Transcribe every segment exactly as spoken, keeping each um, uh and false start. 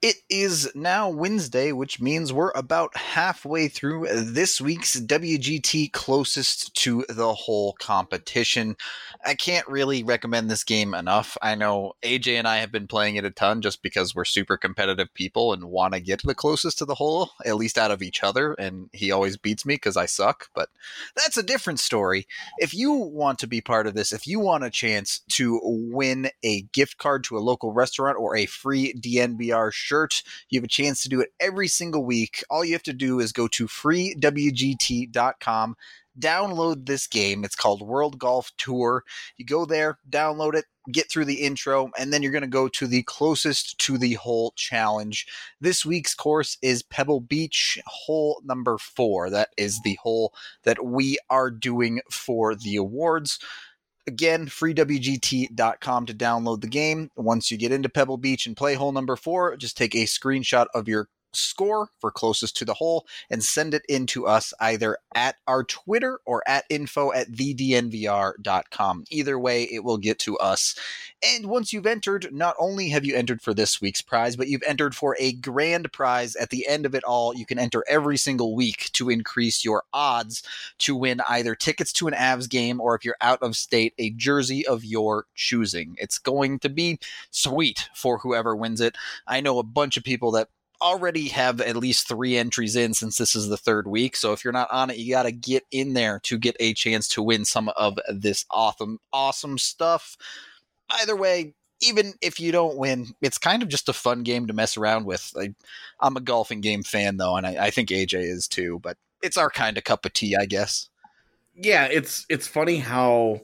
It is now Wednesday, which means we're about halfway through this week's W G T closest to the whole competition. I can't really recommend this game enough. I know A J and I have been playing it a ton just because we're super competitive people and want to get the closest to the whole, at least out of each other, and he always beats me because I suck, but that's a different story. If you want to be part of this, if you want a chance to win a gift card to a local restaurant or a free D N V R shirt, you have a chance to do it every single week. All you have to do is go to free W G T dot com, download this game. It's called World Golf Tour. You go there, download it, get through the intro, and then you're going to go to the closest to the hole challenge. This week's course is Pebble Beach, hole number four. That is the hole that we are doing for the awards. Again, free W G T dot com to download the game. Once you get into Pebble Beach and play hole number four, just take a screenshot of your score for closest to the hole and send it in to us either at our Twitter or at info at the D N V R dot com. Either way, it will get to us. And once you've entered, not only have you entered for this week's prize, but you've entered for a grand prize at the end of it all. You can enter every single week to increase your odds to win either tickets to an Avs game or, if you're out of state, a jersey of your choosing. It's going to be sweet for whoever wins it. I know a bunch of people that already have at least three entries in since this is the third week. So if you're not on it, you got to get in there to get a chance to win some of this awesome, awesome stuff. Either way, even if you don't win, it's kind of just a fun game to mess around with. I, I'm a golfing game fan though, and I, I think A J is too, but it's our kind of cup of tea, I guess. Yeah, it's, it's funny how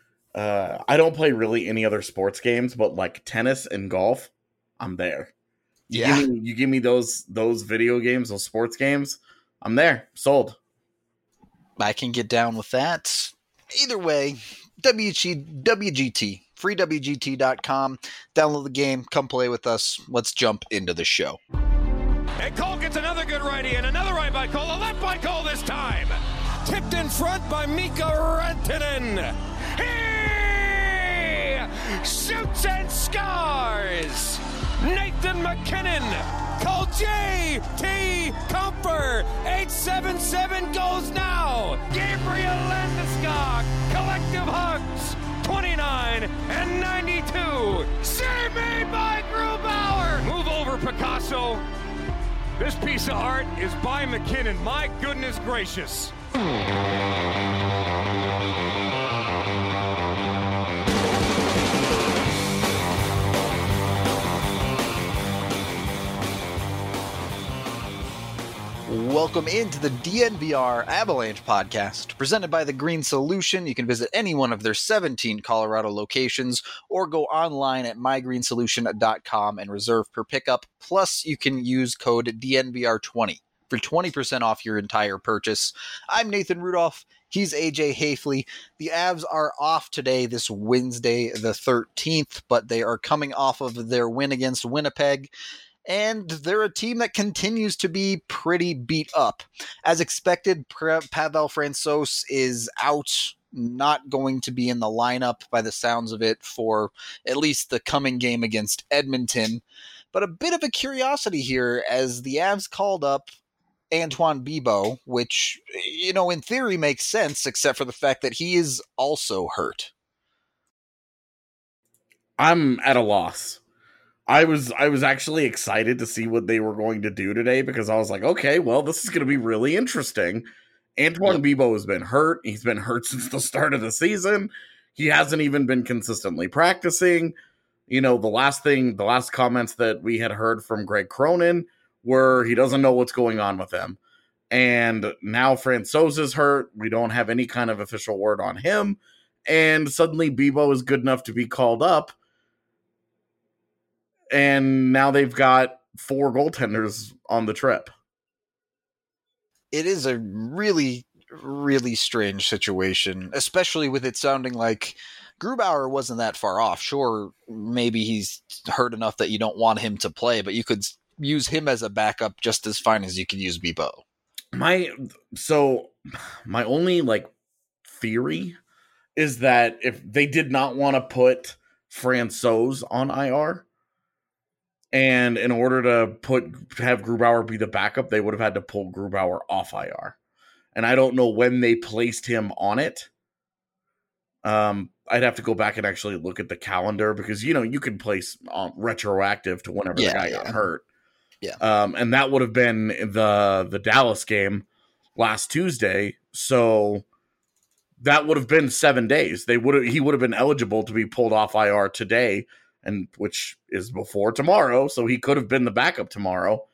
uh, I don't play really any other sports games, but like tennis and golf, I'm there. You Yeah, give me, you give me those those video games, those sports games, I'm there, sold. I can get down with that. Either way, W G, W G T, free W G T dot com. Download the game, come play with us. Let's jump into the show. And Cole gets another good righty and another right by Cole, a left by Cole this time. Tipped in front by Mika Rantanen. He shoots and scores. Nathan MacKinnon, call J T Comfer, eight seven seven goes now. Gabriel Landeskog, collective hugs, twenty-nine and ninety-two. Save made by Grubauer. Move over, Picasso. This piece of art is by MacKinnon. My goodness gracious. Welcome into the D N V R Avalanche podcast, presented by The Green Solution. You can visit any one of their seventeen Colorado locations or go online at my green solution dot com and reserve per pickup. Plus, you can use code D N V R twenty for twenty percent off your entire purchase. I'm Nathan Rudolph. He's A J Hafley. The Avs are off today, this Wednesday the thirteenth, but they are coming off of their win against Winnipeg. And they're a team that continues to be pretty beat up. As expected, Pavel Francouz is out, not going to be in the lineup by the sounds of it for at least the coming game against Edmonton. But a bit of a curiosity here as the Avs called up Antoine Bibeau, which, you know, in theory makes sense, except for the fact that he is also hurt. I'm at a loss. I was I was actually excited to see what they were going to do today because I was like, okay, well, this is going to be really interesting. Antoine yep. Bibeau has been hurt. He's been hurt since the start of the season. He hasn't even been consistently practicing. You know, the last thing, the last comments that we had heard from Greg Cronin were he doesn't know what's going on with him. And now Francouz is hurt. We don't have any kind of official word on him. And suddenly Bibeau is good enough to be called up. And now they've got four goaltenders on the trip. It is a really, really strange situation, especially with it sounding like Grubauer wasn't that far off. Sure, maybe he's hurt enough that you don't want him to play, but you could use him as a backup just as fine as you could use Bibeau. My so my only like theory is that if they did not want to put Francouz on I R, And in order to put have Grubauer be the backup, they would have had to pull Grubauer off I R. And I don't know when they placed him on it. Um, I'd have to go back and actually look at the calendar because, you know, you can place um, retroactive to whenever Yeah, the guy yeah. got hurt. Yeah. Um, and that would have been the the Dallas game last Tuesday. So that would have been seven days. They would have he would have been eligible to be pulled off I R today, and which is before tomorrow. So he could have been the backup tomorrow.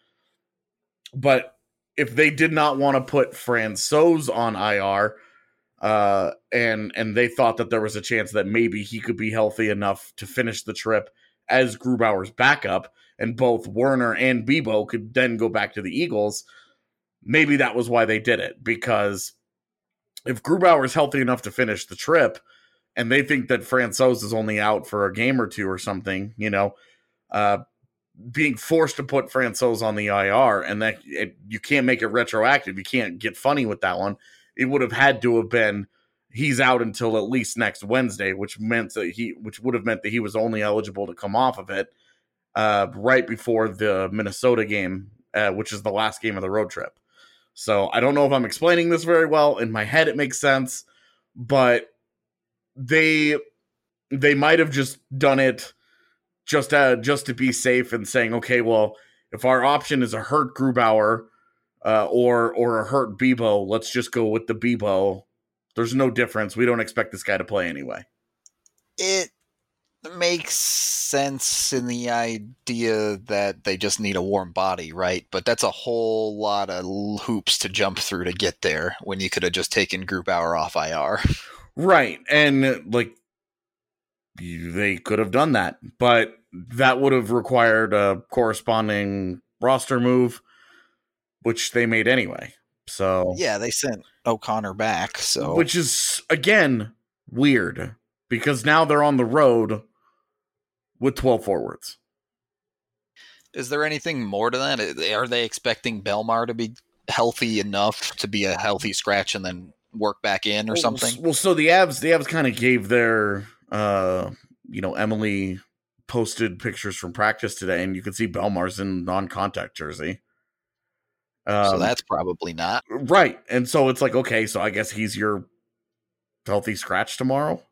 But if they did not want to put Francouz on I R, uh, and and they thought that there was a chance that maybe he could be healthy enough to finish the trip as Grubauer's backup, and both Werner and Bibeau could then go back to the Eagles, maybe that was why they did it. Because if Grubauer is healthy enough to finish the trip, and they think that Francouz is only out for a game or two or something, you know, uh, being forced to put Francouz on the I R, and that it, you can't make it retroactive. You can't get funny with that one. It would have had to have been he's out until at least next Wednesday, which meant that he, which would have meant that he was only eligible to come off of it uh, right before the Minnesota game, uh, which is the last game of the road trip. So I don't know if I'm explaining this very well. In my head, it makes sense, but they they might have just done it just uh, just to be safe and saying, okay, well, if our option is a hurt Grubauer uh, or or a hurt Bibeau, let's just go with the Bibeau. There's no difference. We don't expect this guy to play anyway. It makes sense in the idea that they just need a warm body, right? But that's a whole lot of hoops to jump through to get there when you could have just taken Grubauer off I R. Right. And like they could have done that, but that would have required a corresponding roster move, which they made anyway. So yeah, they sent O'Connor back. So which is again weird because now they're on the road with twelve forwards. Is there anything more to that? Are they expecting Belmar to be healthy enough to be a healthy scratch and then work back in or well, something? Well, so the Avs, the Avs kind of gave their, uh, you know, Emily posted pictures from practice today, and you can see Belmar's in non-contact jersey. Um, so that's probably not. Right. And so it's like, okay, so I guess he's your healthy scratch tomorrow?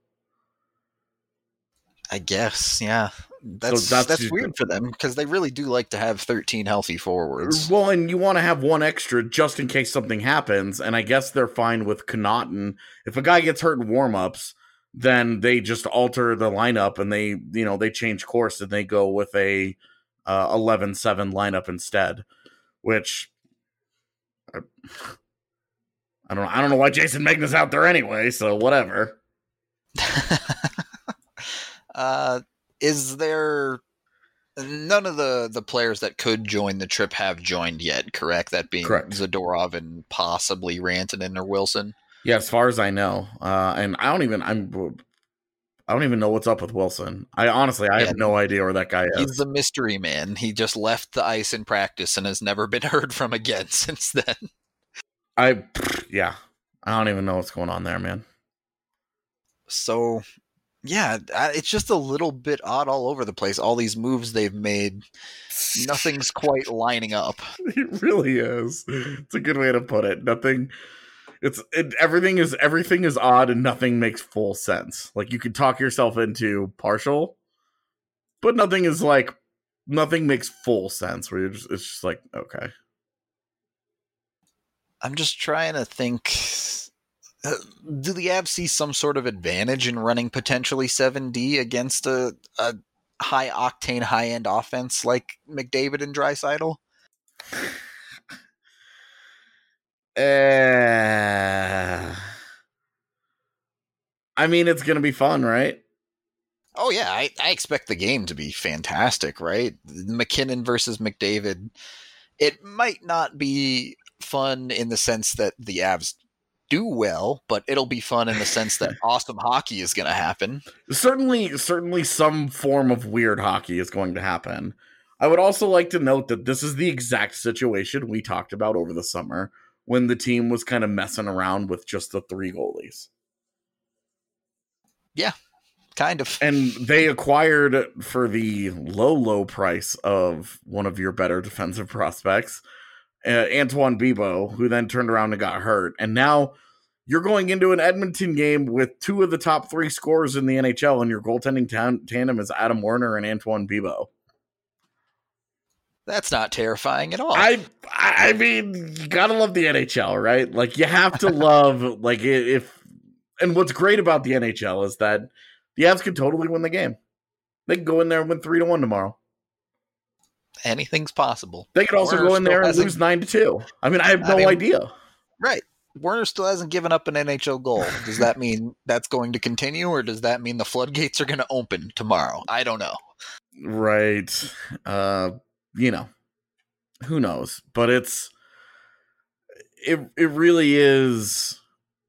I guess, yeah. That's so that's, that's weird for them because they really do like to have thirteen healthy forwards. Well, and you want to have one extra just in case something happens, and I guess they're fine with Connaughton. If a guy gets hurt in warm-ups, then they just alter the lineup and they, you know, they change course and they go with a uh, eleven seven lineup instead, which I, I don't know. I don't know why Jason Megna's out there anyway, so whatever. uh, is there none of the, the players that could join the trip have joined yet, correct? That being correct. Zadorov and possibly Rantanen or Wilson. Yeah, as far as I know. Uh, and I don't even I'm I don't even know what's up with Wilson. I honestly I yeah, have no idea where that guy is. He's the mystery man. He just left the ice in practice and has never been heard from again since then. I yeah. I don't even know what's going on there, man. So yeah, it's just a little bit odd all over the place. All these moves they've made, nothing's quite lining up. It really is. It's a good way to put it. Nothing. It's it, everything is everything is odd and nothing makes full sense. Like you could talk yourself into partial, but nothing is like nothing makes full sense. Where you're just it's just like okay. I'm just trying to think. Uh, do the Avs see some sort of advantage in running potentially seven D against a, a high-octane, high-end offense like McDavid and Draisaitl? Uh, I mean, it's going to be fun, right? Oh, yeah. I, I expect the game to be fantastic, right? McKinnon versus McDavid. It might not be fun in the sense that the Avs do well, but it'll be fun in the sense that awesome hockey is going to happen. Certainly, certainly some form of weird hockey is going to happen. I would also like to note that this is the exact situation we talked about over the summer when the team was kind of messing around with just the three goalies. Yeah, kind of. And they acquired for the low, low price of one of your better defensive prospects, uh, Antoine Bibeau, who then turned around and got hurt. And now you're going into an Edmonton game with two of the top three scorers in the N H L, and your goaltending tan- tandem is Adam Werner and Antoine Bibeau. That's not terrifying at all. I I mean, you gotta love the N H L, right? Like, you have to love, like, if, and what's great about the N H L is that the Avs can totally win the game. They can go in there and win three to one tomorrow. Anything's possible. They could also Werner go in there and hasn't- lose nine to two. I mean, I have no I mean, idea. Right. Werner still hasn't given up an N H L goal. Does that mean that's going to continue, or does that mean the floodgates are going to open tomorrow? I don't know. Right. Uh, you know, who knows? But it's, it, it really is,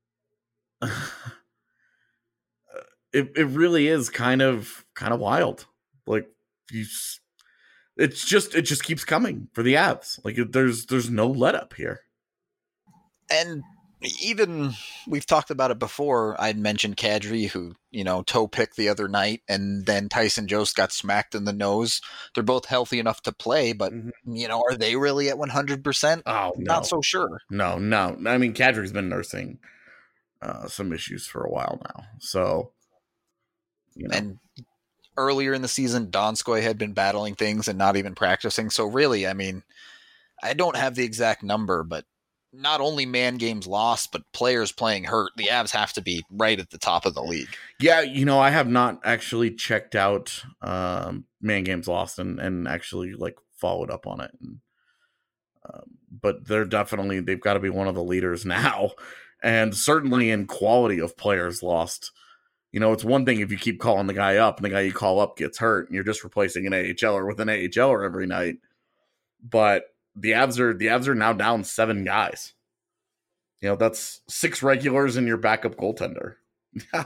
it, it really is kind of, kind of wild. Like, you, it's just, it just keeps coming for the Avs. Like, there's, there's no let up here. And even we've talked about it before. I'd mentioned Kadri, who, you know, toe picked the other night, and then Tyson Jost got smacked in the nose. They're both healthy enough to play, but, mm-hmm. you know, are they really at one hundred percent? Oh, no. Not so sure. No, no. I mean, Kadri's been nursing uh, some issues for a while now. So, you know. And earlier in the season, Donskoy had been battling things and not even practicing. So really, I mean, I don't have the exact number, but not only man games lost, but players playing hurt. The Avs have to be right at the top of the league. Yeah, you know, I have not actually checked out um, man games lost and, and actually like followed up on it. And, uh, but they're definitely, they've got to be one of the leaders now. And certainly in quality of players lost. You know, it's one thing if you keep calling the guy up and the guy you call up gets hurt and you're just replacing an AHLer with an AHLer every night. But the Avs are the Avs are now down seven guys. You know, that's six regulars and your backup goaltender. Yeah.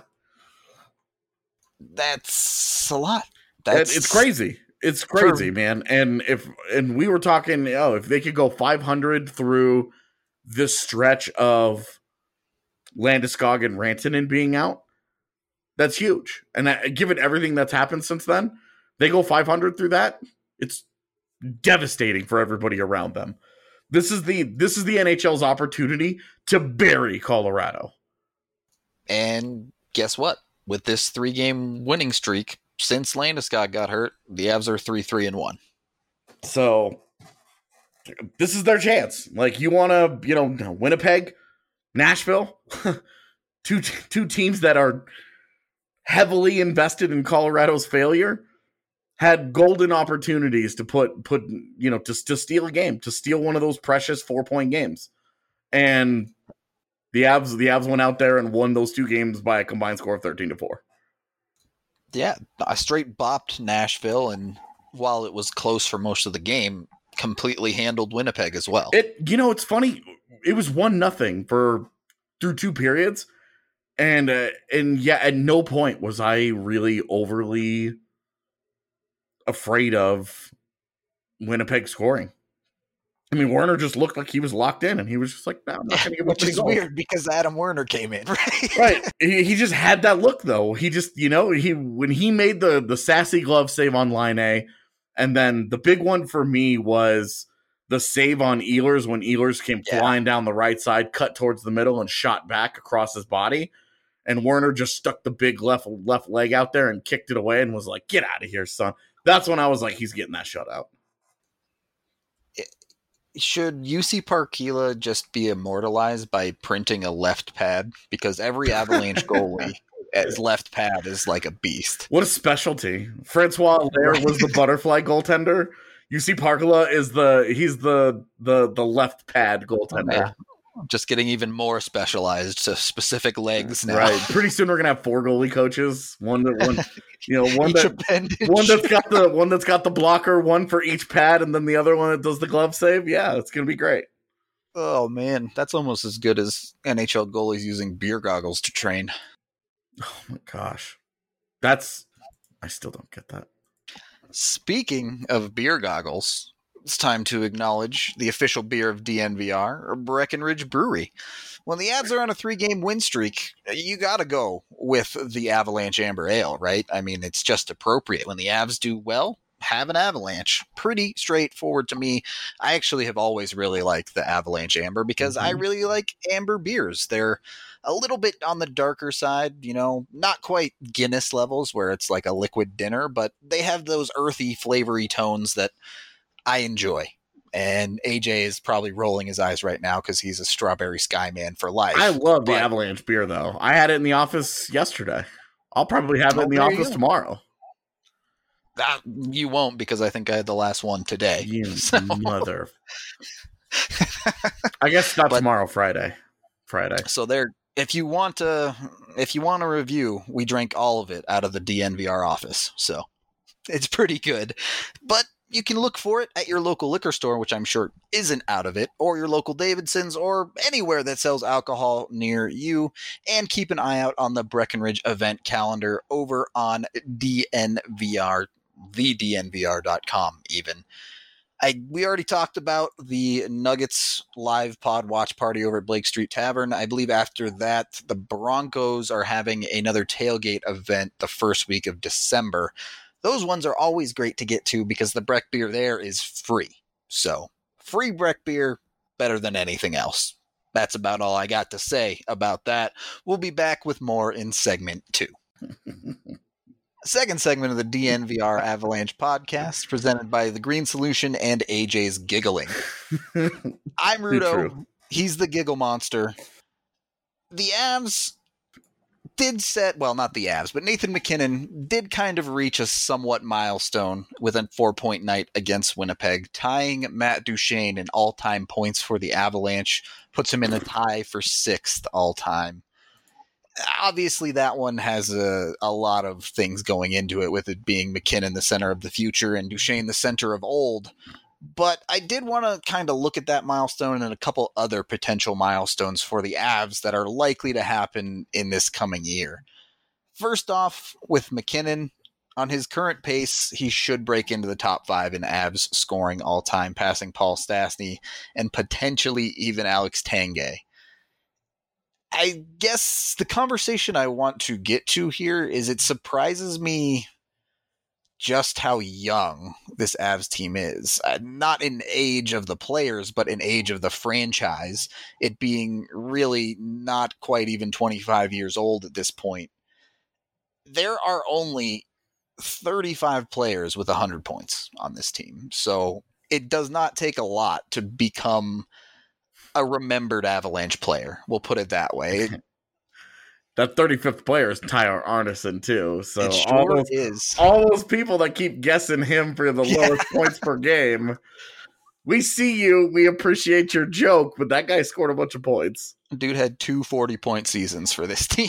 That's a lot. That's it's crazy. It's crazy, for, man. And if and we were talking, oh, if they could go five hundred through this stretch of Landeskog and Rantanen being out, that's huge. And uh, given everything that's happened since then, they go five hundred through that. It's devastating for everybody around them. This is the this is the N H L's opportunity to bury Colorado. And guess what? With this three-game winning streak, since Landeskog got hurt, the Avs are three three and one. So this is their chance. Like, you want to, you know, Winnipeg, Nashville, two two teams that are heavily invested in Colorado's failure, had golden opportunities to put, put you know, to, to steal a game, to steal one of those precious four-point games. And the Avs, the Avs went out there and won those two games by a combined score of thirteen to four. Yeah, I straight bopped Nashville, and while it was close for most of the game, completely handled Winnipeg as well. It, you know, it's funny. It was one nothing for through two periods. And, uh, and yeah, at no point was I really overly afraid of Winnipeg scoring. I mean, Werner just looked like he was locked in, and he was just like, no, I'm not going to give Which up is goals. Weird because Adam Werner came in, right? Right. He, he just had that look, though. He just, you know, he when he made the, the sassy glove save on line A, and then the big one for me was the save on Ehlers when Ehlers came yeah. flying down the right side, cut towards the middle, and shot back across his body. And Werner just stuck the big left left leg out there and kicked it away and was like, get out of here, son. That's when I was like, he's getting that shutout. Should U C Parkila just be immortalized by printing a left pad? Because every Avalanche goalie as left pad is like a beast. What a specialty. Francois Allaire was the butterfly goaltender. U C Parkila is the he's the the the left pad goaltender. Oh, yeah. Just getting even more specialized to specific legs now. Right. Pretty soon we're gonna have four goalie coaches. One that one you know, one each that appendage. one that's got the one that's got the blocker, one for each pad, and then the other one that does the glove save. Yeah, it's gonna be great. Oh man, that's almost as good as N H L goalies using beer goggles to train. Oh my gosh. That's I still don't get that. Speaking of beer goggles, it's time to acknowledge the official beer of D N V R, or Breckenridge Brewery. when the Avs are on a three-game win streak, you got to go with the Avalanche Amber Ale, right? I mean, it's just appropriate. When the Avs do well, have an Avalanche. Pretty straightforward to me. I actually have always really liked the Avalanche Amber because mm-hmm. I really like amber beers. They're a little bit on the darker side, you know, not quite Guinness levels where it's like a liquid dinner, but they have those earthy, flavory tones that I enjoy. And A J is probably rolling his eyes right now because he's a Strawberry Sky man for life. I love the Avalanche beer, though. I had it in the office yesterday. I'll probably have it in the office tomorrow. Uh, you won't because I think I had the last one today. You so. Mother. I guess not but, tomorrow, Friday. Friday. So there, if you want to, if you want a review, we drank all of it out of the D N V R office. So it's pretty good, but you can look for it at your local liquor store, which I'm sure isn't out of it, or your local Davidson's, or anywhere that sells alcohol near you. And keep an eye out on the Breckenridge event calendar over on D N V R, the D N V R dot com even. I, we already talked about the Nuggets live pod watch party over at Blake Street Tavern. I believe after that, the Broncos are having another tailgate event the first week of December. Those ones are always great to get to because the Breck beer there is free. So free Breck beer, better than anything else. That's about all I got to say about that. We'll be back with more in segment two. Second segment of the D N V R Avalanche podcast presented by The Green Solution and A J's Giggling. I'm Rudo. He's the Giggle Monster. The Avs did set, well, not the Avs, but Nathan MacKinnon did kind of reach a somewhat milestone with a four-point night against Winnipeg, tying Matt Duchene in all-time points for the Avalanche, puts him in a tie for sixth all-time. Obviously, that one has a, a lot of things going into it, with it being MacKinnon the center of the future and Duchene the center of old. But I did want to kind of look at that milestone and a couple other potential milestones for the Avs that are likely to happen in this coming year. First off, with MacKinnon, on his current pace, he should break into the top five in Avs scoring all time, passing Paul Stastny and potentially even Alex Tanguay. I guess the conversation I want to get to here is it surprises me just how young this Avs team is. Uh, not in age of the players, but in age of the franchise, it being really not quite even twenty-five years old at this point. There are only thirty-five players with one hundred points on this team, so it does not take a lot to become a remembered Avalanche player. We'll put it that way. That thirty-fifth player is Tyler Arneson too. So it sure all those, is. all those people that keep guessing him for the yeah. lowest points per game, we see you. We appreciate your joke, but that guy scored a bunch of points. Dude had two forty-point seasons for this team.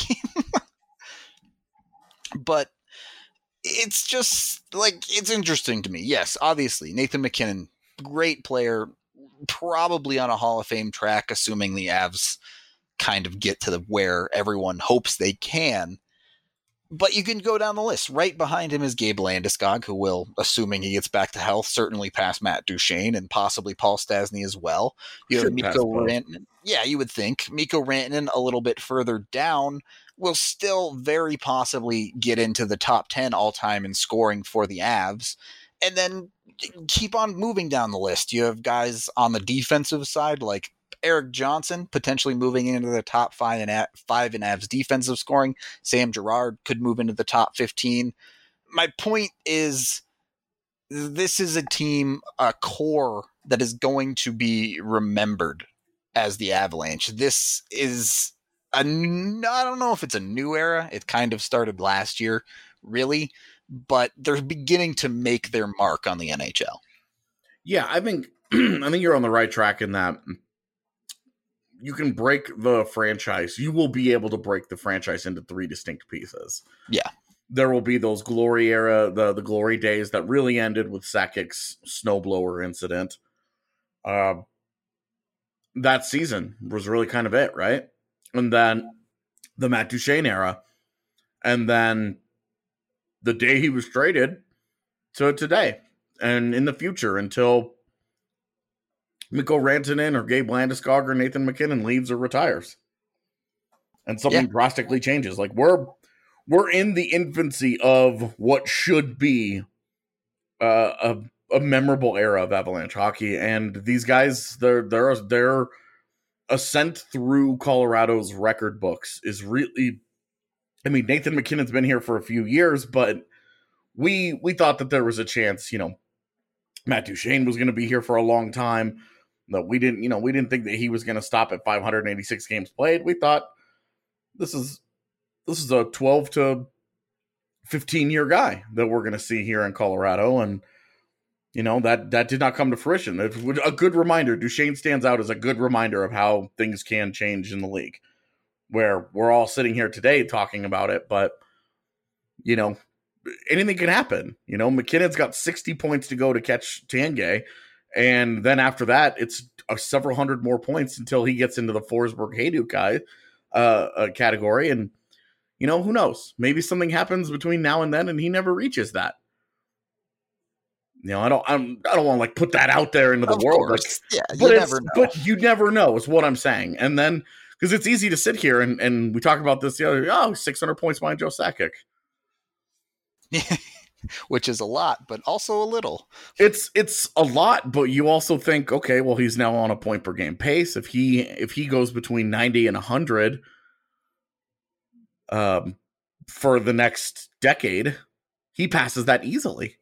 But it's just, like, it's interesting to me. Yes, obviously, Nathan MacKinnon, great player, probably on a Hall of Fame track, assuming the Avs kind of get to the where everyone hopes they can. But you can go down the list. Right behind him is Gabe Landeskog, who will, assuming he gets back to health, certainly pass Matt Duchene and possibly Paul Stastny as well. You have Mikko Rantanen. Yeah, you would think. Mikko Rantanen a little bit further down will still very possibly get into the top ten all-time in scoring for the Avs. And then keep on moving down the list. You have guys on the defensive side like Eric Johnson potentially moving into the top five in, a- five in Avs defensive scoring. Sam Girard could move into the top fifteen. My point is, this is a team, a core that is going to be remembered as the Avalanche. This is a, I don't know if it's a new era. It kind of started last year, really, but they're beginning to make their mark on the N H L. Yeah, I think I think you're on the right track in that. You can break the franchise. You will be able to break the franchise into three distinct pieces. Yeah. There will be those glory era, the, the glory days that really ended with Sakic's snowblower incident. Uh, that season was really kind of it, right? And then the Matt Duchene era. And then the day he was traded to today. And in the future until Mikko Rantanen or Gabe Landeskog or Nathan MacKinnon leaves or retires. and something yeah. drastically changes. Like we're we're in the infancy of what should be uh, a a memorable era of Avalanche hockey, and these guys, their their their ascent through Colorado's record books is really. I mean, Nathan MacKinnon's been here for a few years, but we we thought that there was a chance, you know, Matt Duchene was going to be here for a long time. No, we didn't, you know, we didn't think that he was going to stop at five hundred eighty-six games played. We thought this is this is a twelve to fifteen year guy that we're going to see here in Colorado, and you know that that did not come to fruition. It's a good reminder. Duchene stands out as a good reminder of how things can change in the league, where we're all sitting here today talking about it, but you know, anything can happen. You know, MacKinnon's got sixty points to go to catch Tanguay, and then after that, it's uh, several hundred more points until he gets into the Forsberg Hayduk guy uh, uh, category, and you know, who knows? Maybe something happens between now and then, and he never reaches that. You know, I don't, I'm, I don't want to like put that out there into the of world. Like, yeah, you but never know. But you never know is what I'm saying. And then, because it's easy to sit here and, and we talk about this the other, oh, six hundred points behind Joe Sakic. Which is a lot, but also a little. It's it's a lot, but you also think, okay, well, he's now on a point per game pace. If he if he goes between ninety and one hundred um, for the next decade, he passes that easily.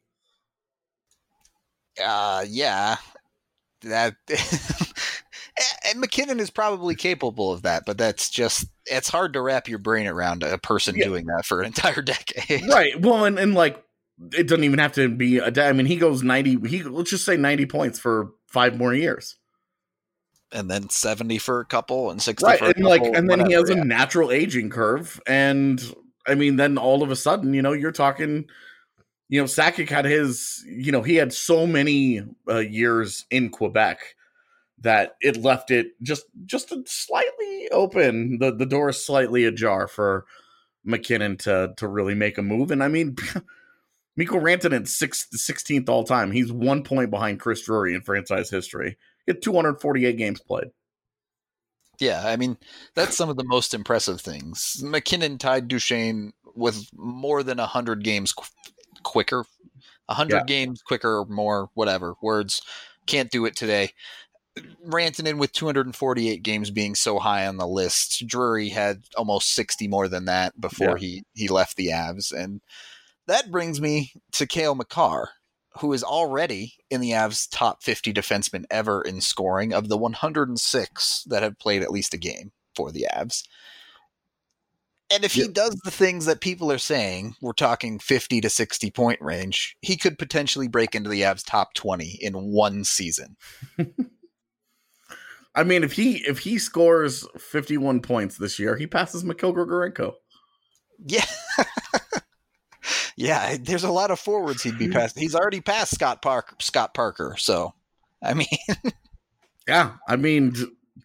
Uh, yeah, that and MacKinnon is probably capable of that, but that's just, it's hard to wrap your brain around a person yeah. doing that for an entire decade. Right. Well, and, and like, it doesn't even have to be a day. I mean, he goes ninety, he, let's just say ninety points for five more years. And then seventy for a couple and sixty right. for a and couple. Like, and then whatever, he has yeah. a natural aging curve. And I mean, then all of a sudden, you know, you're talking, you know, Sakic had his, you know, he had so many uh, years in Quebec that it left it just just slightly open. The the door is slightly ajar for MacKinnon to to really make a move. And I mean, Mikko Rantanen's sixth, sixteenth all time. He's one point behind Chris Drury in franchise history. He had two hundred forty-eight games played. Yeah, I mean, that's some of the most impressive things. MacKinnon tied Duchene with more than one hundred games qu- quicker. one hundred yeah. games quicker or more, whatever. Words. Can't do it today. Rantanen with two hundred forty-eight games being so high on the list. Drury had almost sixty more than that before yeah. he, he left the Avs. And that brings me to Cale Makar, who is already in the Avs' top fifty defensemen ever in scoring of the one hundred six that have played at least a game for the Avs. And if yep. he does the things that people are saying, we're talking fifty to sixty point range, he could potentially break into the Avs' top twenty in one season. I mean, if he if he scores fifty-one points this year, he passes Mikhail Grigorenko. Yeah. Yeah, there's a lot of forwards he'd be past. He's already passed Scott Parker, Scott Parker. So, I mean, yeah, I mean,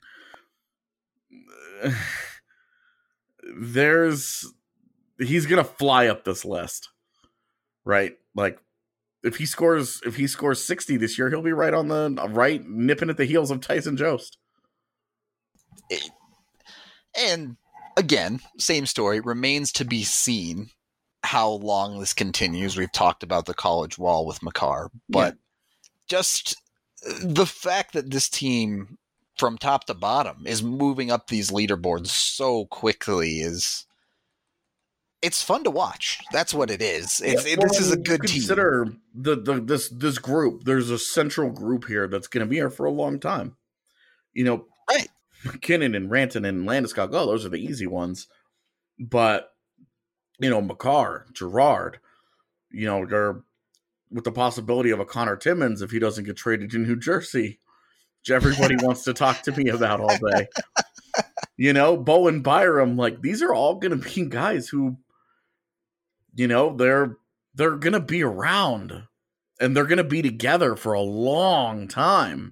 there's he's gonna fly up this list, right? Like, if he scores if he scores sixty this year, he'll be right on the right, nipping at the heels of Tyson Jost. It, and again, same story, remains to be seen how long this continues. We've talked about the college wall with Makar, but yeah. just the fact that this team from top to bottom is moving up these leaderboards so quickly is it's fun to watch. That's what it is. It's, yeah, well, it, this is a good consider team. The, the, this, this group, there's a central group here that's going to be here for a long time. You know, right. MacKinnon and Rantanen and Landeskog, oh, those are the easy ones. But you know, Makar, Gerard, you know, they're with the possibility of a Connor Timmins if he doesn't get traded to New Jersey, which everybody wants to talk to me about all day. You know, Bowen Byram, like these are all going to be guys who, you know, they're they're going to be around and they're going to be together for a long time.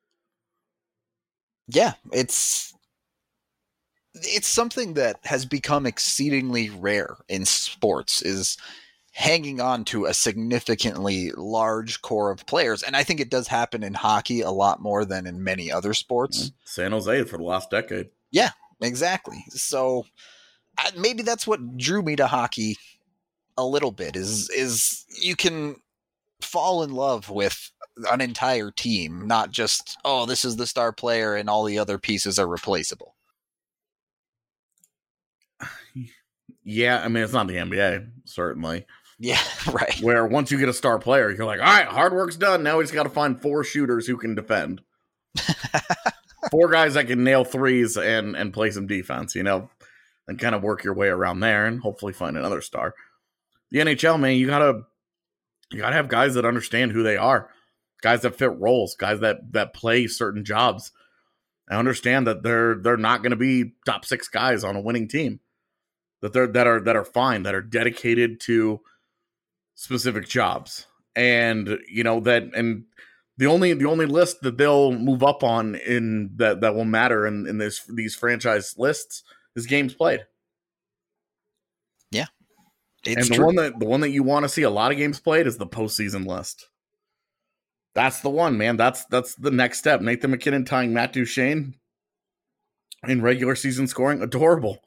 Yeah, it's it's something that has become exceedingly rare in sports, is hanging on to a significantly large core of players. And I think it does happen in hockey a lot more than in many other sports. San Jose for the last decade. Yeah. Exactly. So I, maybe that's what drew me to hockey a little bit is is you can fall in love with an entire team, not just, oh, this is the star player and all the other pieces are replaceable. Yeah, I mean, it's not the N B A, certainly. Yeah, right. Where once you get a star player, you're like, all right, hard work's done. Now we just got to find four shooters who can defend. Four guys that can nail threes and, and play some defense, you know, and kind of work your way around there and hopefully find another star. The N H L, man, you gotta you gotta have guys that understand who they are, guys that fit roles, guys that that play certain jobs. I understand that they're they're not going to be top six guys on a winning team. That they're that are that are fine, that are dedicated to specific jobs, and you know that, and the only the only list that they'll move up on in that that will matter in in this these franchise lists is games played. Yeah, it's and the true. one that the one that you want to see a lot of games played is the postseason list. That's the one, man. That's that's the next step. Nathan MacKinnon tying Matt Duchene in regular season scoring, adorable.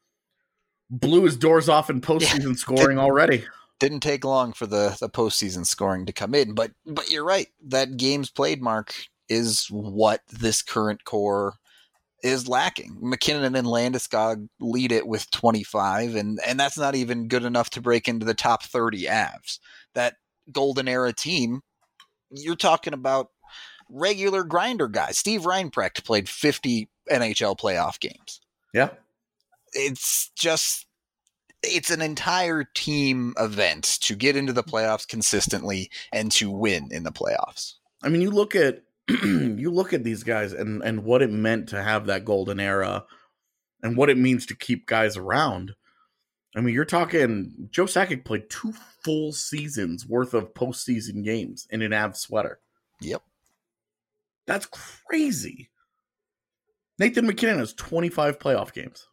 Blew his doors off in postseason yeah, scoring did, already. Didn't take long for the, the postseason scoring to come in, but but you're right. That games played mark is what this current core is lacking. McKinnon and Landeskog lead it with twenty-five, and, and that's not even good enough to break into the top thirty Avs. That golden era team, you're talking about regular grinder guys. Steve Reinprecht played fifty N H L playoff games. Yeah. It's just, it's an entire team event to get into the playoffs consistently and to win in the playoffs. I mean, you look at, you look at these guys and, and what it meant to have that golden era and what it means to keep guys around. I mean, you're talking Joe Sakic played two full seasons worth of postseason games in an Avs sweater. Yep. That's crazy. Nathan MacKinnon has twenty-five playoff games.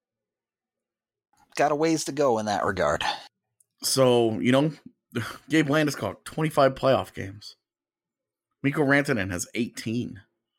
Got a ways to go in that regard. So, you know, Gabe Landeskog, twenty-five playoff games. Mikko Rantanen has eighteen.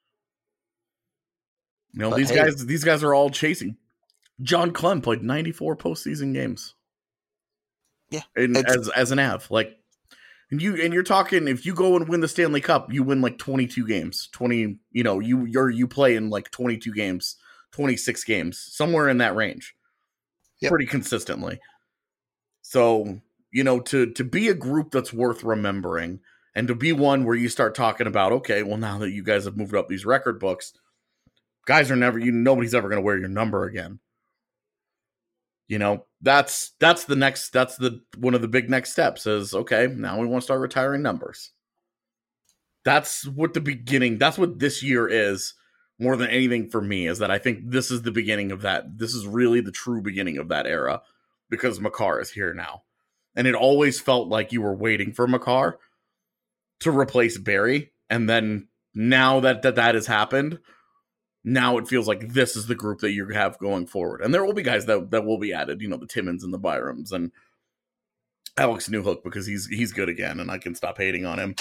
You know, but these hey, guys these guys are all chasing. John Clem played ninety-four postseason games. Yeah. And as as an Av. Like, and you and you're talking, if you go and win the Stanley Cup, you win like twenty-two games. twenty, you know, you you're you play in like twenty-two games, twenty-six games, somewhere in that range. Yep. Pretty consistently. So, you know, to to be a group that's worth remembering and to be one where you start talking about, okay, well, now that you guys have moved up these record books, guys are never, you nobody's ever going to wear your number again. You know, that's that's the next, that's the one of the big next steps is, okay, now we want to start retiring numbers. That's what the beginning, that's what this year is. More than anything for me is that I think this is the beginning of that. This is really the true beginning of that era because Makar is here now. And it always felt like you were waiting for Makar to replace Barry. And then now that that, that has happened, now it feels like this is the group that you have going forward. And there will be guys that, that will be added, you know, the Timmins and the Byrams and Alex Newhook because he's he's good again and I can stop hating on him.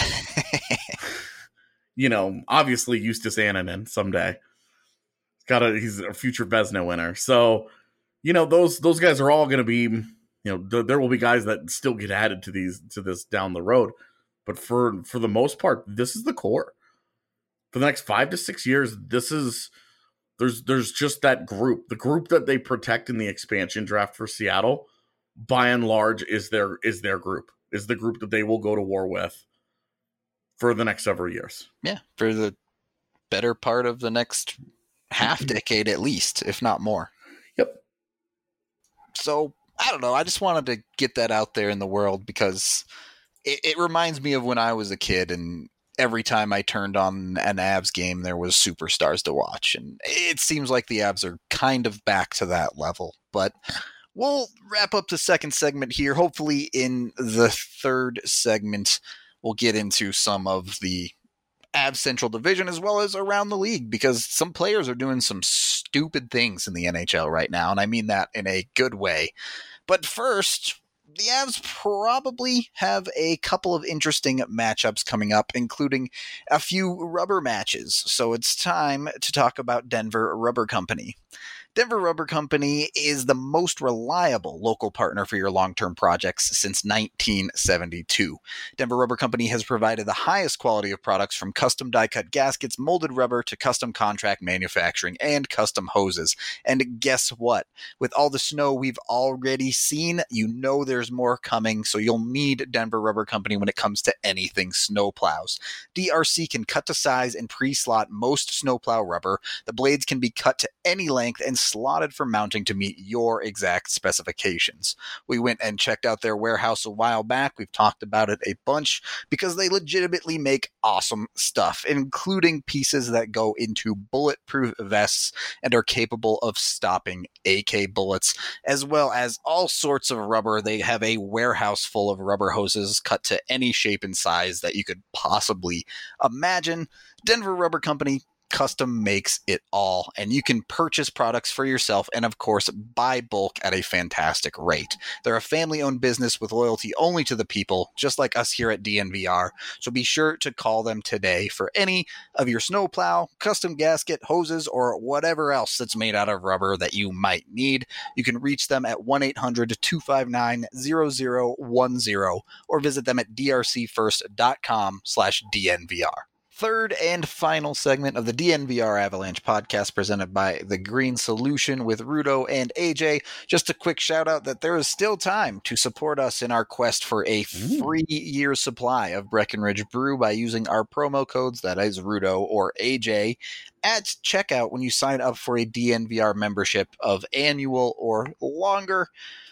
You know, obviously Justus Annunen someday. Got a he's a future Vezina winner. So, you know, those those guys are all going to be, you know, th- there will be guys that still get added to these to this down the road. But for for the most part, this is the core. For the next five to six years, this is there's there's just that group. The group that they protect in the expansion draft for Seattle, by and large, is their is their group. Is the group that they will go to war with for the next several years. Yeah, for the better part of the next half decade at least, if not more. Yep. So, I don't know. I just wanted to get that out there in the world because it, it reminds me of when I was a kid and every time I turned on an Avs game, there was superstars to watch. And it seems like the Avs are kind of back to that level. But we'll wrap up the second segment here. Hopefully in the third segment, we'll get into some of the Avs Central Division as well as around the league because some players are doing some stupid things in the N H L right now, and I mean that in a good way. But first, the Avs probably have a couple of interesting matchups coming up, including a few rubber matches. So it's time to talk about Denver Rubber Company. Denver Rubber Company is the most reliable local partner for your long-term projects since nineteen seventy-two. Denver Rubber Company has provided the highest quality of products from custom die-cut gaskets, molded rubber, to custom contract manufacturing and custom hoses. And guess what? With all the snow we've already seen, you know there's more coming, so you'll need Denver Rubber Company when it comes to anything snowplows. D R C can cut to size and pre-slot most snowplow rubber. The blades can be cut to any length and slotted for mounting to meet your exact specifications. We went and checked out their warehouse a while back. We've talked about it a bunch because they legitimately make awesome stuff, including pieces that go into bulletproof vests and are capable of stopping A K bullets, as well as all sorts of rubber. They have a warehouse full of rubber hoses cut to any shape and size that you could possibly imagine. Denver Rubber Company custom makes it all, and you can purchase products for yourself and, of course, buy bulk at a fantastic rate. They're a family-owned business with loyalty only to the people, just like us here at D N V R, so be sure to call them today for any of your snowplow, custom gasket, hoses, or whatever else that's made out of rubber that you might need. You can reach them at one eight hundred two five nine zero zero one zero or visit them at drcfirst.com slash DNVR. Third and final segment of the D N V R Avalanche podcast presented by The Green Solution with Rudo and A J. Just a quick shout out that there is still time to support us in our quest for a free year supply of Breckenridge Brew by using our promo codes, that is Rudo or A J, at checkout when you sign up for a D N V R membership of annual or longer.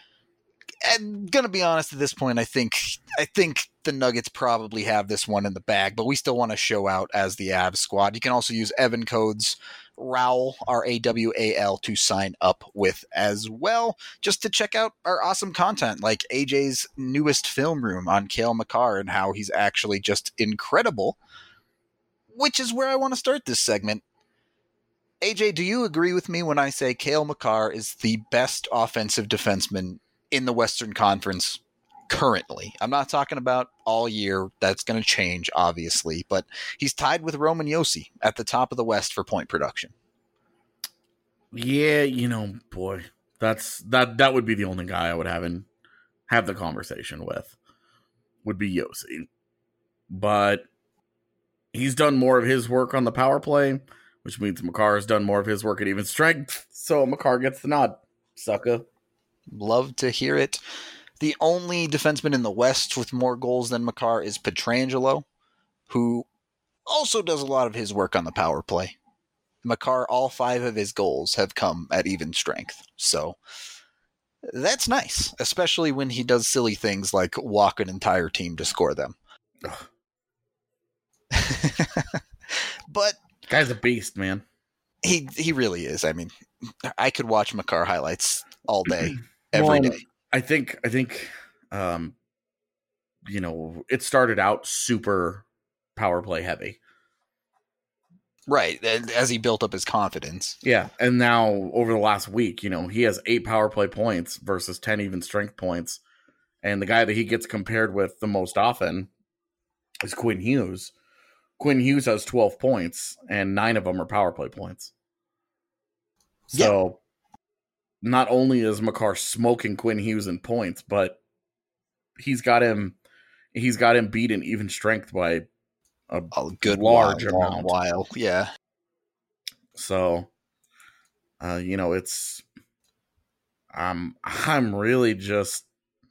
I'm gonna be honest at this point, I think I think the Nuggets probably have this one in the bag, but we still want to show out as the Avs squad. You can also use Evan codes RAWL, R A W A L, to sign up with as well, just to check out our awesome content, like A J's newest film room on Cale Makar and how he's actually just incredible, which is where I want to start this segment. A J, do you agree with me when I say Cale Makar is the best offensive defenseman in the Western Conference currently? I'm not talking about all year. That's going to change, obviously, but he's tied with Roman Josi at the top of the West for point production. Yeah, you know, boy, that's that that would be the only guy I would have in have the conversation with, would be Josi. But he's done more of his work on the power play, which means Makar has done more of his work at even strength. So Makar gets the nod, sucker. Love to hear it. The only defenseman in the West with more goals than Makar is Pietrangelo, who also does a lot of his work on the power play. Makar, all five of his goals have come at even strength. So that's nice, especially when he does silly things like walk an entire team to score them. But guy's a beast, man. He he really is. I mean, I could watch Makar highlights all day, every well, day. I think, I think, um, you know, it started out super power play heavy. Right. As he built up his confidence. Yeah. And now over the last week, you know, he has eight power play points versus ten even strength points. And the guy that he gets compared with the most often is Quinn Hughes. Quinn Hughes has twelve points and nine of them are power play points. So, yeah. Not only is Makar smoking Quinn Hughes in points, but he's got him he's got him beat in even strength by a, a good large while, amount. While, yeah. So, uh, you know, it's I'm I'm really just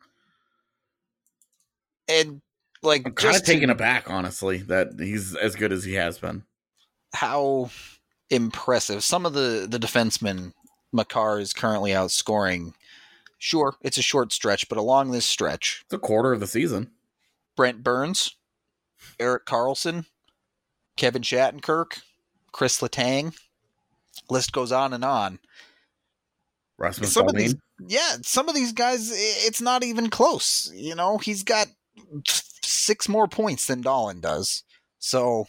and like I'm kind of just taken aback, honestly, that he's as good as he has been. How impressive! Some of the the defensemen Makar is currently outscoring. Sure, it's a short stretch, but along this stretch, it's a quarter of the season. Brent Burns, Erik Karlsson, Kevin Shattenkirk, Chris Letang, list goes on and on. Rasmus some Dahlin. Of these, yeah, some of these guys, it's not even close. You know, he's got six more points than Dahlin does. So,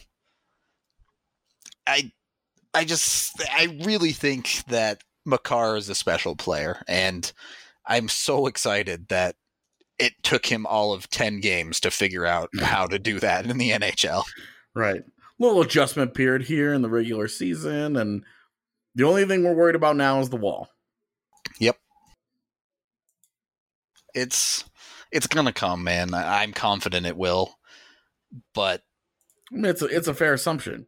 I, I just, I really think that Makar is a special player, and I'm so excited that it took him all of ten games to figure out how to do that in the N H L. Right. Little adjustment period here in the regular season, and The only thing we're worried about now is the wall. Yep. It's it's gonna come, man. I, I'm confident it will. But I mean, it's a, it's a fair assumption.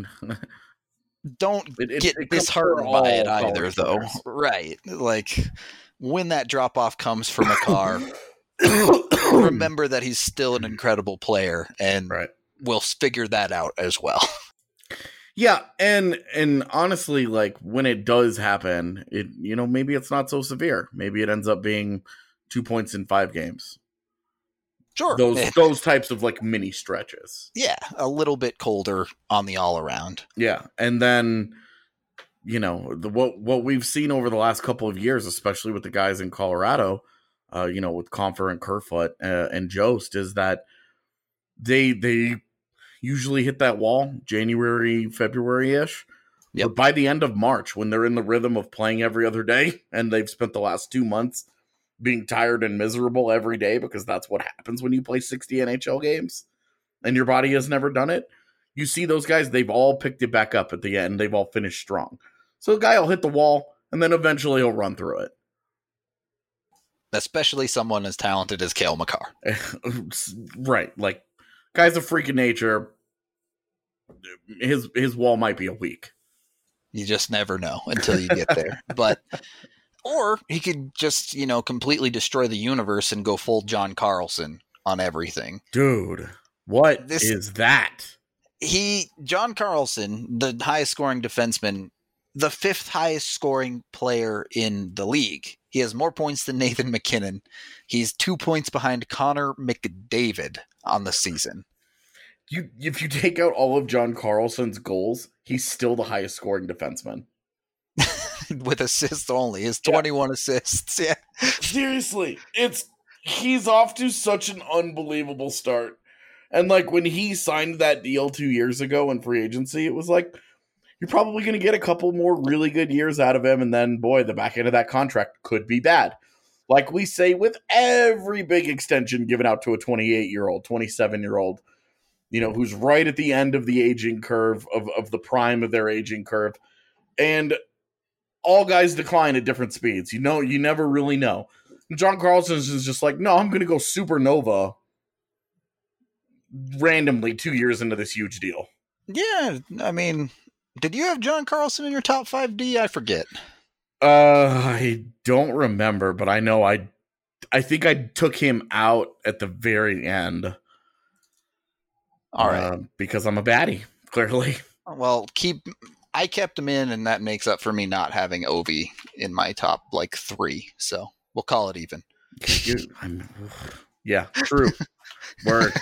don't it, it, get it disheartened by it all either, though. players. Right. Like, when that drop-off comes from a car, remember that he's still an incredible player, and right. we'll figure that out as well. Yeah, and and honestly, like, when it does happen, it you know, maybe it's not so severe. Maybe it ends up being two points in five games. Sure. Those those types of, like, mini stretches. Yeah, a little bit colder on the all-around. Yeah, and then, you know, the what what we've seen over the last couple of years, especially with the guys in Colorado, uh, you know, with Compher and Kerfoot uh, and Jost, is that they they usually hit that wall January, February-ish. Yep. But by the end of March, when they're in the rhythm of playing every other day, and they've spent the last two months being tired and miserable every day, because that's what happens when you play sixty N H L games, and your body has never done it, you see those guys, they've all picked it back up at the end. They've all finished strong. So the guy will hit the wall, and then eventually he'll run through it. Especially someone as talented as Cale Makar. Right. Like, guy's a freak of nature. His his wall might be a week. You just never know until you get there. But or he could just, you know, completely destroy the universe and go full John Carlson on everything. Dude, what This- is that? He, John Carlson, the highest scoring defenseman, the fifth highest scoring player in the league. He has more points than Nathan MacKinnon. He's two points behind Connor McDavid on the season. You if you take out all of John Carlson's goals, he's still the highest scoring defenseman. With assists only. His twenty-one yeah. assists. Yeah. Seriously, it's he's off to such an unbelievable start. And like when he signed that deal two years ago in free agency, it was like, you're probably going to get a couple more really good years out of him. And then, boy, the back end of that contract could be bad. Like we say with every big extension given out to a twenty-eight-year-old, twenty-seven-year-old, you know, who's right at the end of the aging curve, of, of the prime of their aging curve. And all guys decline at different speeds. You know, you never really know. And John Carlson is just like, no, I'm going to go supernova randomly two years into this huge deal. Yeah, I mean, did you have John Carlson in your top five D? I forget. Uh, I don't remember, but I know I, I think I took him out at the very end. All right, uh, because I'm a baddie, clearly. Well, keep. I kept him in, and that makes up for me not having Ovi in my top like three. So we'll call it even. You, I'm, yeah, true. Word.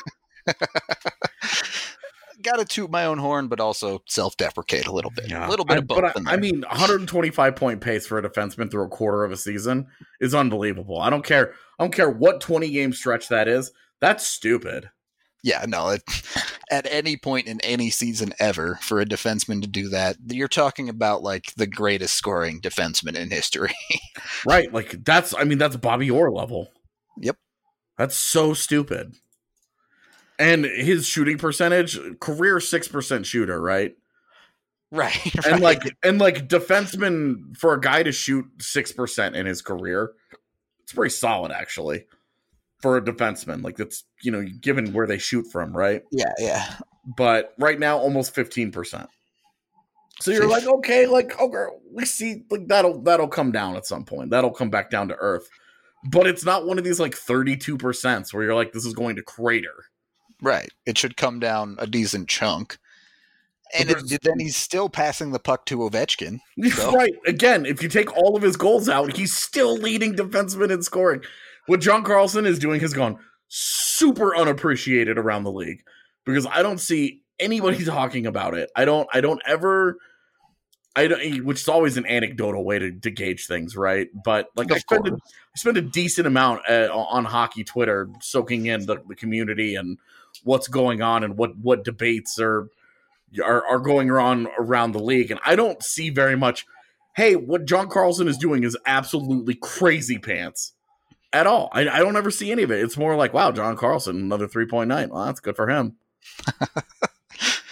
Got to toot my own horn, but also self-deprecate a little bit. Yeah. A little bit I, of both. But I, I mean, one hundred twenty-five point pace for a defenseman through a quarter of a season is unbelievable. I don't care. I don't care what twenty game stretch that is. That's stupid. Yeah, no. It, at any point in any season ever, for a defenseman to do that, you're talking about like the greatest scoring defenseman in history. Right. Like that's. I mean, that's Bobby Orr level. Yep. That's so stupid. And his shooting percentage, career six percent shooter, right? Right, right. And like and like defenseman, for a guy to shoot six percent in his career, it's pretty solid actually. For a defenseman. Like that's, you know, given where they shoot from, right? Yeah, yeah. But right now almost fifteen percent. So you're like, okay, like okay, we see like that'll that'll come down at some point. That'll come back down to earth. But it's not one of these like thirty-two percent where you're like, this is going to crater. Right. It should come down a decent chunk. And it, then he's still passing the puck to Ovechkin. So. Right. Again, if you take all of his goals out, he's still leading defenseman in scoring. What John Carlson is doing has gone super unappreciated around the league because I don't see anybody talking about it. I don't, I don't ever, I don't, which is always an anecdotal way to, to gauge things, right? But like I spend, a, I spend a decent amount uh, on hockey Twitter soaking in the, the community and what's going on and what, what debates are, are are going on around the league. And I don't see very much, hey, what John Carlson is doing is absolutely crazy pants at all. I, I don't ever see any of it. It's more like, wow, John Carlson, another three point nine. Well, that's good for him.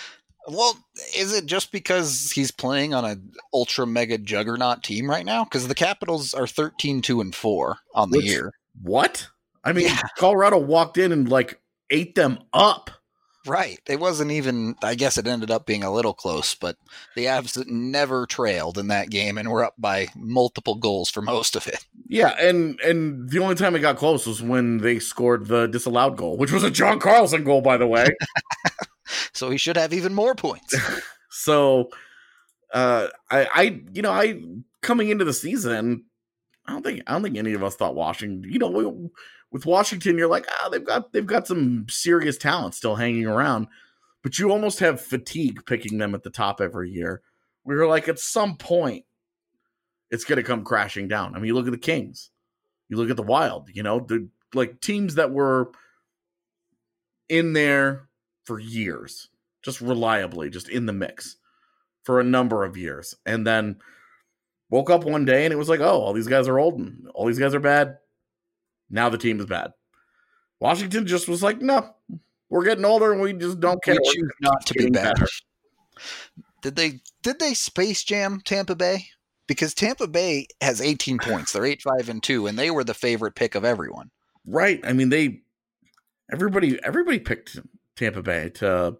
Well, is it just because he's playing on a ultra mega juggernaut team right now? Because the Capitals are thirteen two and four on the Which, year. What? I mean, Yeah. Colorado walked in and like ate them up. Right. It wasn't even, I guess it ended up being a little close, but the Avs never trailed in that game and were up by multiple goals for most of it. Yeah, and and the only time it got close was when they scored the disallowed goal, which was a John Carlson goal, by the way. So he should have even more points. So, uh, I, I, you know, I coming into the season, I don't think I don't think any of us thought Washington. You know, we, with Washington, you're like, ah, oh, they've got they've got some serious talent still hanging around, but you almost have fatigue picking them at the top every year. We were like, at some point, it's going to come crashing down. I mean, you look at the Kings, you look at the Wild. You know, the like teams that were in there for years, just reliably, just in the mix for a number of years, and then woke up one day and it was like, oh, all these guys are old and all these guys are bad. Now the team is bad. Washington just was like, no, we're getting older and we just don't care. We choose not to be better. Did they did they Space Jam Tampa Bay? Because Tampa Bay has eighteen points. They're eight five and two, and they were the favorite pick of everyone. Right. I mean, they everybody everybody picked Tampa Bay to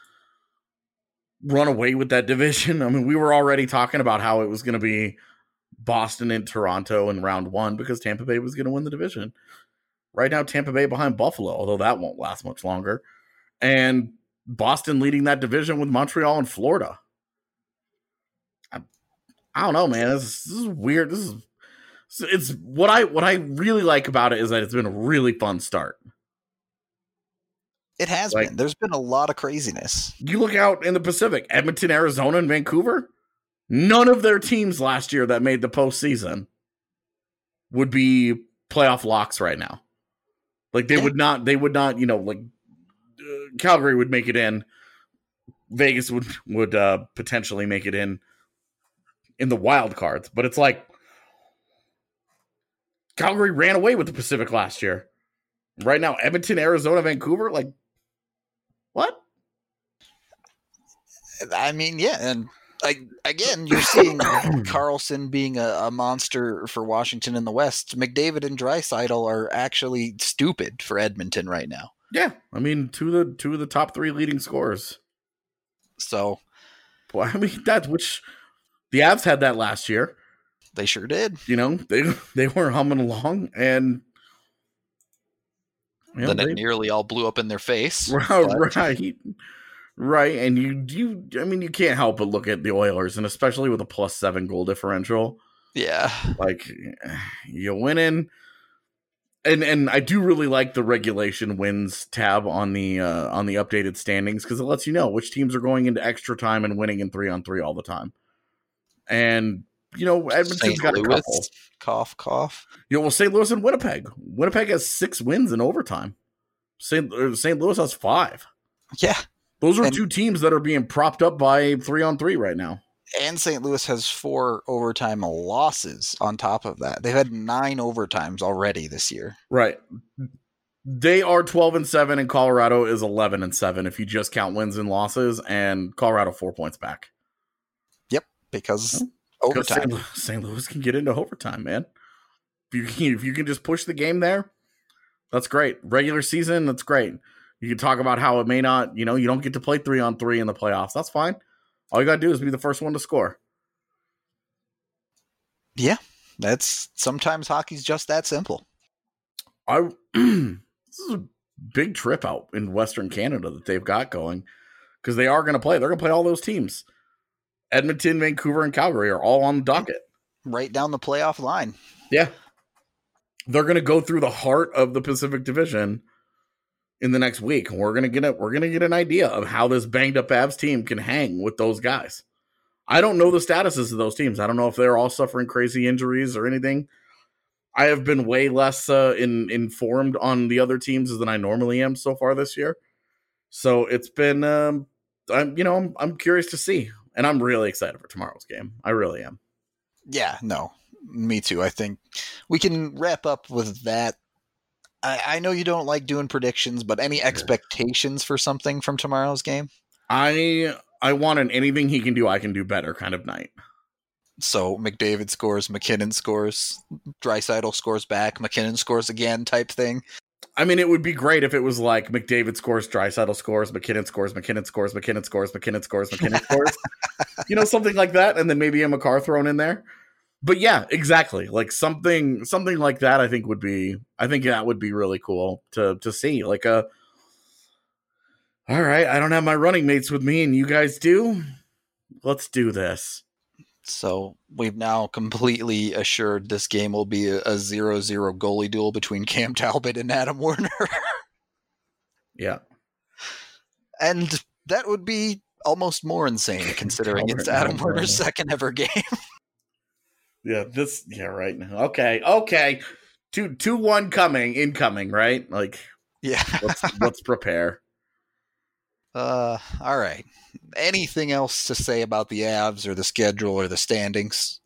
run away with that division. I mean, we were already talking about how it was going to be Boston and Toronto in round one because Tampa Bay was going to win the division. Right now, Tampa Bay behind Buffalo, although that won't last much longer. And Boston leading that division with Montreal and Florida. I, I don't know, man. This is, this is weird. This is it's what I what I really like about it is that it's been a really fun start. It has like, been. There's been a lot of craziness. You look out in the Pacific, Edmonton, Arizona, and Vancouver. None of their teams last year that made the postseason would be playoff locks right now. Like they yeah. would not, they would not, you know, like uh, Calgary would make it in. Vegas would would uh, potentially make it in in the wild cards, but it's like Calgary ran away with the Pacific last year. Right now, Edmonton, Arizona, Vancouver, like what? I mean, yeah, and. Like again, you're seeing Carlson being a, a monster for Washington in the West. McDavid and Draisaitl are actually stupid for Edmonton right now. Yeah, I mean, two of the two of the top three leading scorers. So, well, I mean, that's which the Avs had that last year. They sure did. You know, they they were humming along, and you know, then it they, nearly all blew up in their face. Right, but. right. Right, and you you I mean you can't help but look at the Oilers, and especially with a plus seven goal differential. Yeah, like you winning, and and I do really like the regulation wins tab on the uh, on the updated standings because it lets you know which teams are going into extra time and winning in three on three all the time. And you know Edmonton's Saint got Louis, a couple. Cough, cough. You know, well, Saint Louis and Winnipeg. Winnipeg has six wins in overtime. Saint Saint Louis has five. Yeah. Those are and, two teams that are being propped up by three on three right now. And Saint Louis has four overtime losses on top of that. They've had nine overtimes already this year. Right. They are twelve and seven, and Colorado is eleven and seven if you just count wins and losses, and Colorado four points back. Yep, because oh, overtime. Saint Saint Louis can get into overtime, man. If you can, if you can just push the game there, that's great. Regular season, that's great. You can talk about how it may not, you know, you don't get to play three on three in the playoffs. That's fine. All you got to do is be the first one to score. Yeah, that's sometimes hockey's just that simple. I this is a big trip out in Western Canada that they've got going because they are going to play. They're going to play all those teams. Edmonton, Vancouver, and Calgary are all on the docket. Right down the playoff line. Yeah. They're going to go through the heart of the Pacific Division in the next week. We're gonna get a, we're gonna get an idea of how this banged up Avs team can hang with those guys. I don't know the statuses of those teams. I don't know if they're all suffering crazy injuries or anything. I have been way less uh, in, informed on the other teams than I normally am so far this year. So it's been, um, I'm you know I'm, I'm curious to see, and I'm really excited for tomorrow's game. I really am. Yeah, no, me too. I think we can wrap up with that. I, I know you don't like doing predictions, but any expectations for something from tomorrow's game? I I want an anything he can do, I can do better kind of night. So McDavid scores, McKinnon scores, Draisaitl scores back, McKinnon scores again type thing. I mean, it would be great if it was like McDavid scores, Draisaitl scores, McKinnon scores, McKinnon scores, McKinnon scores, McKinnon scores, McKinnon scores. You know, something like that, and then maybe a McCarr thrown in there. But yeah, exactly. Like something something like that I think would be I think that would be really cool to to see. Like a all right, I don't have my running mates with me and you guys do. Let's do this. So we've now completely assured this game will be a, a zero zero goalie duel between Cam Talbot and Adam Werner. Yeah. And that would be almost more insane considering it's Adam Werner's second ever game. Yeah, this yeah, right. Okay, okay. Two two one coming, incoming, right? Like yeah. let's let's prepare. Uh all right. Anything else to say about the Avs or the schedule or the standings?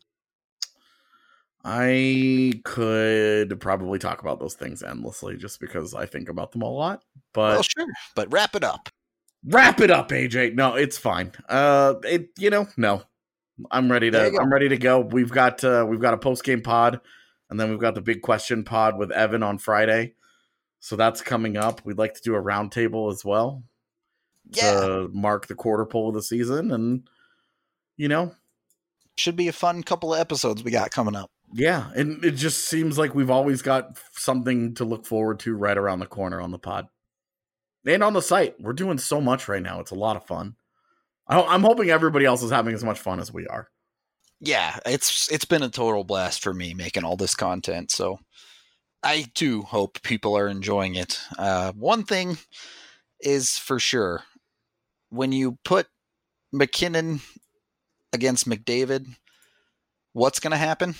I could probably talk about those things endlessly just because I think about them a lot. But well, sure. But wrap it up. Wrap it up, A J. No, it's fine. Uh, it you know no, I'm ready to I'm ready to go. We've got uh, we've got a post game pod, and then we've got the big question pod with Evan on Friday. So that's coming up. We'd like to do a roundtable as well. Yeah. To mark the quarter pole of the season, and you know, should be a fun couple of episodes we got coming up. Yeah, and it just seems like we've always got something to look forward to right around the corner on the pod and on the site. We're doing so much right now; it's a lot of fun. I'm hoping everybody else is having as much fun as we are. Yeah, it's it's been a total blast for me making all this content. So I too hope people are enjoying it. Uh, one thing is for sure. When you put McKinnon against McDavid, what's going to happen?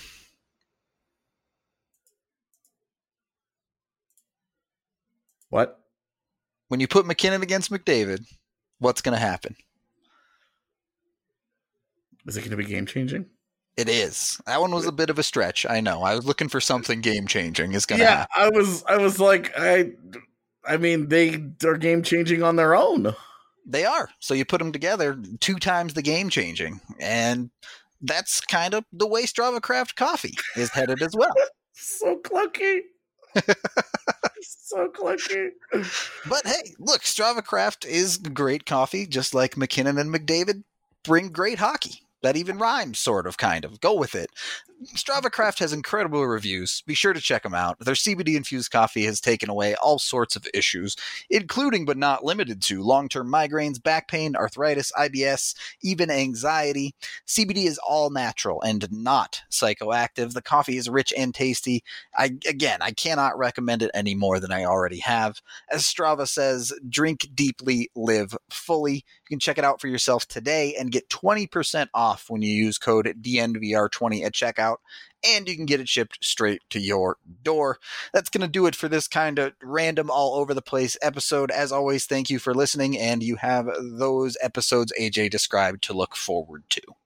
What? When you put McKinnon against McDavid, what's going to happen? Is it going to be game-changing? It is. That one was a bit of a stretch. I know. I was looking for something game-changing. Is going to yeah, happen. I was. I was like, I. I mean, they are game-changing on their own. They are. So you put them together, two times the game changing. And that's kind of the way Strava Craft coffee is headed as well. So clunky. So clunky. But hey, look, Strava Craft is great coffee, just like McKinnon and McDavid bring great hockey. That even rhymes, sort of, kind of. Go with it. Strava Craft has incredible reviews. Be sure to check them out. Their C B D-infused coffee has taken away all sorts of issues, including but not limited to long-term migraines, back pain, arthritis, I B S, even anxiety. C B D is all natural and not psychoactive. The coffee is rich and tasty. I Again, I cannot recommend it any more than I already have. As Strava says, drink deeply, live fully. You can check it out for yourself today and get twenty percent off when you use code D N V R twenty at checkout, and you can get it shipped straight to your door. That's going to do it for this kind of random all over the place episode. As always, thank you for listening, and you have those episodes A J described to look forward to.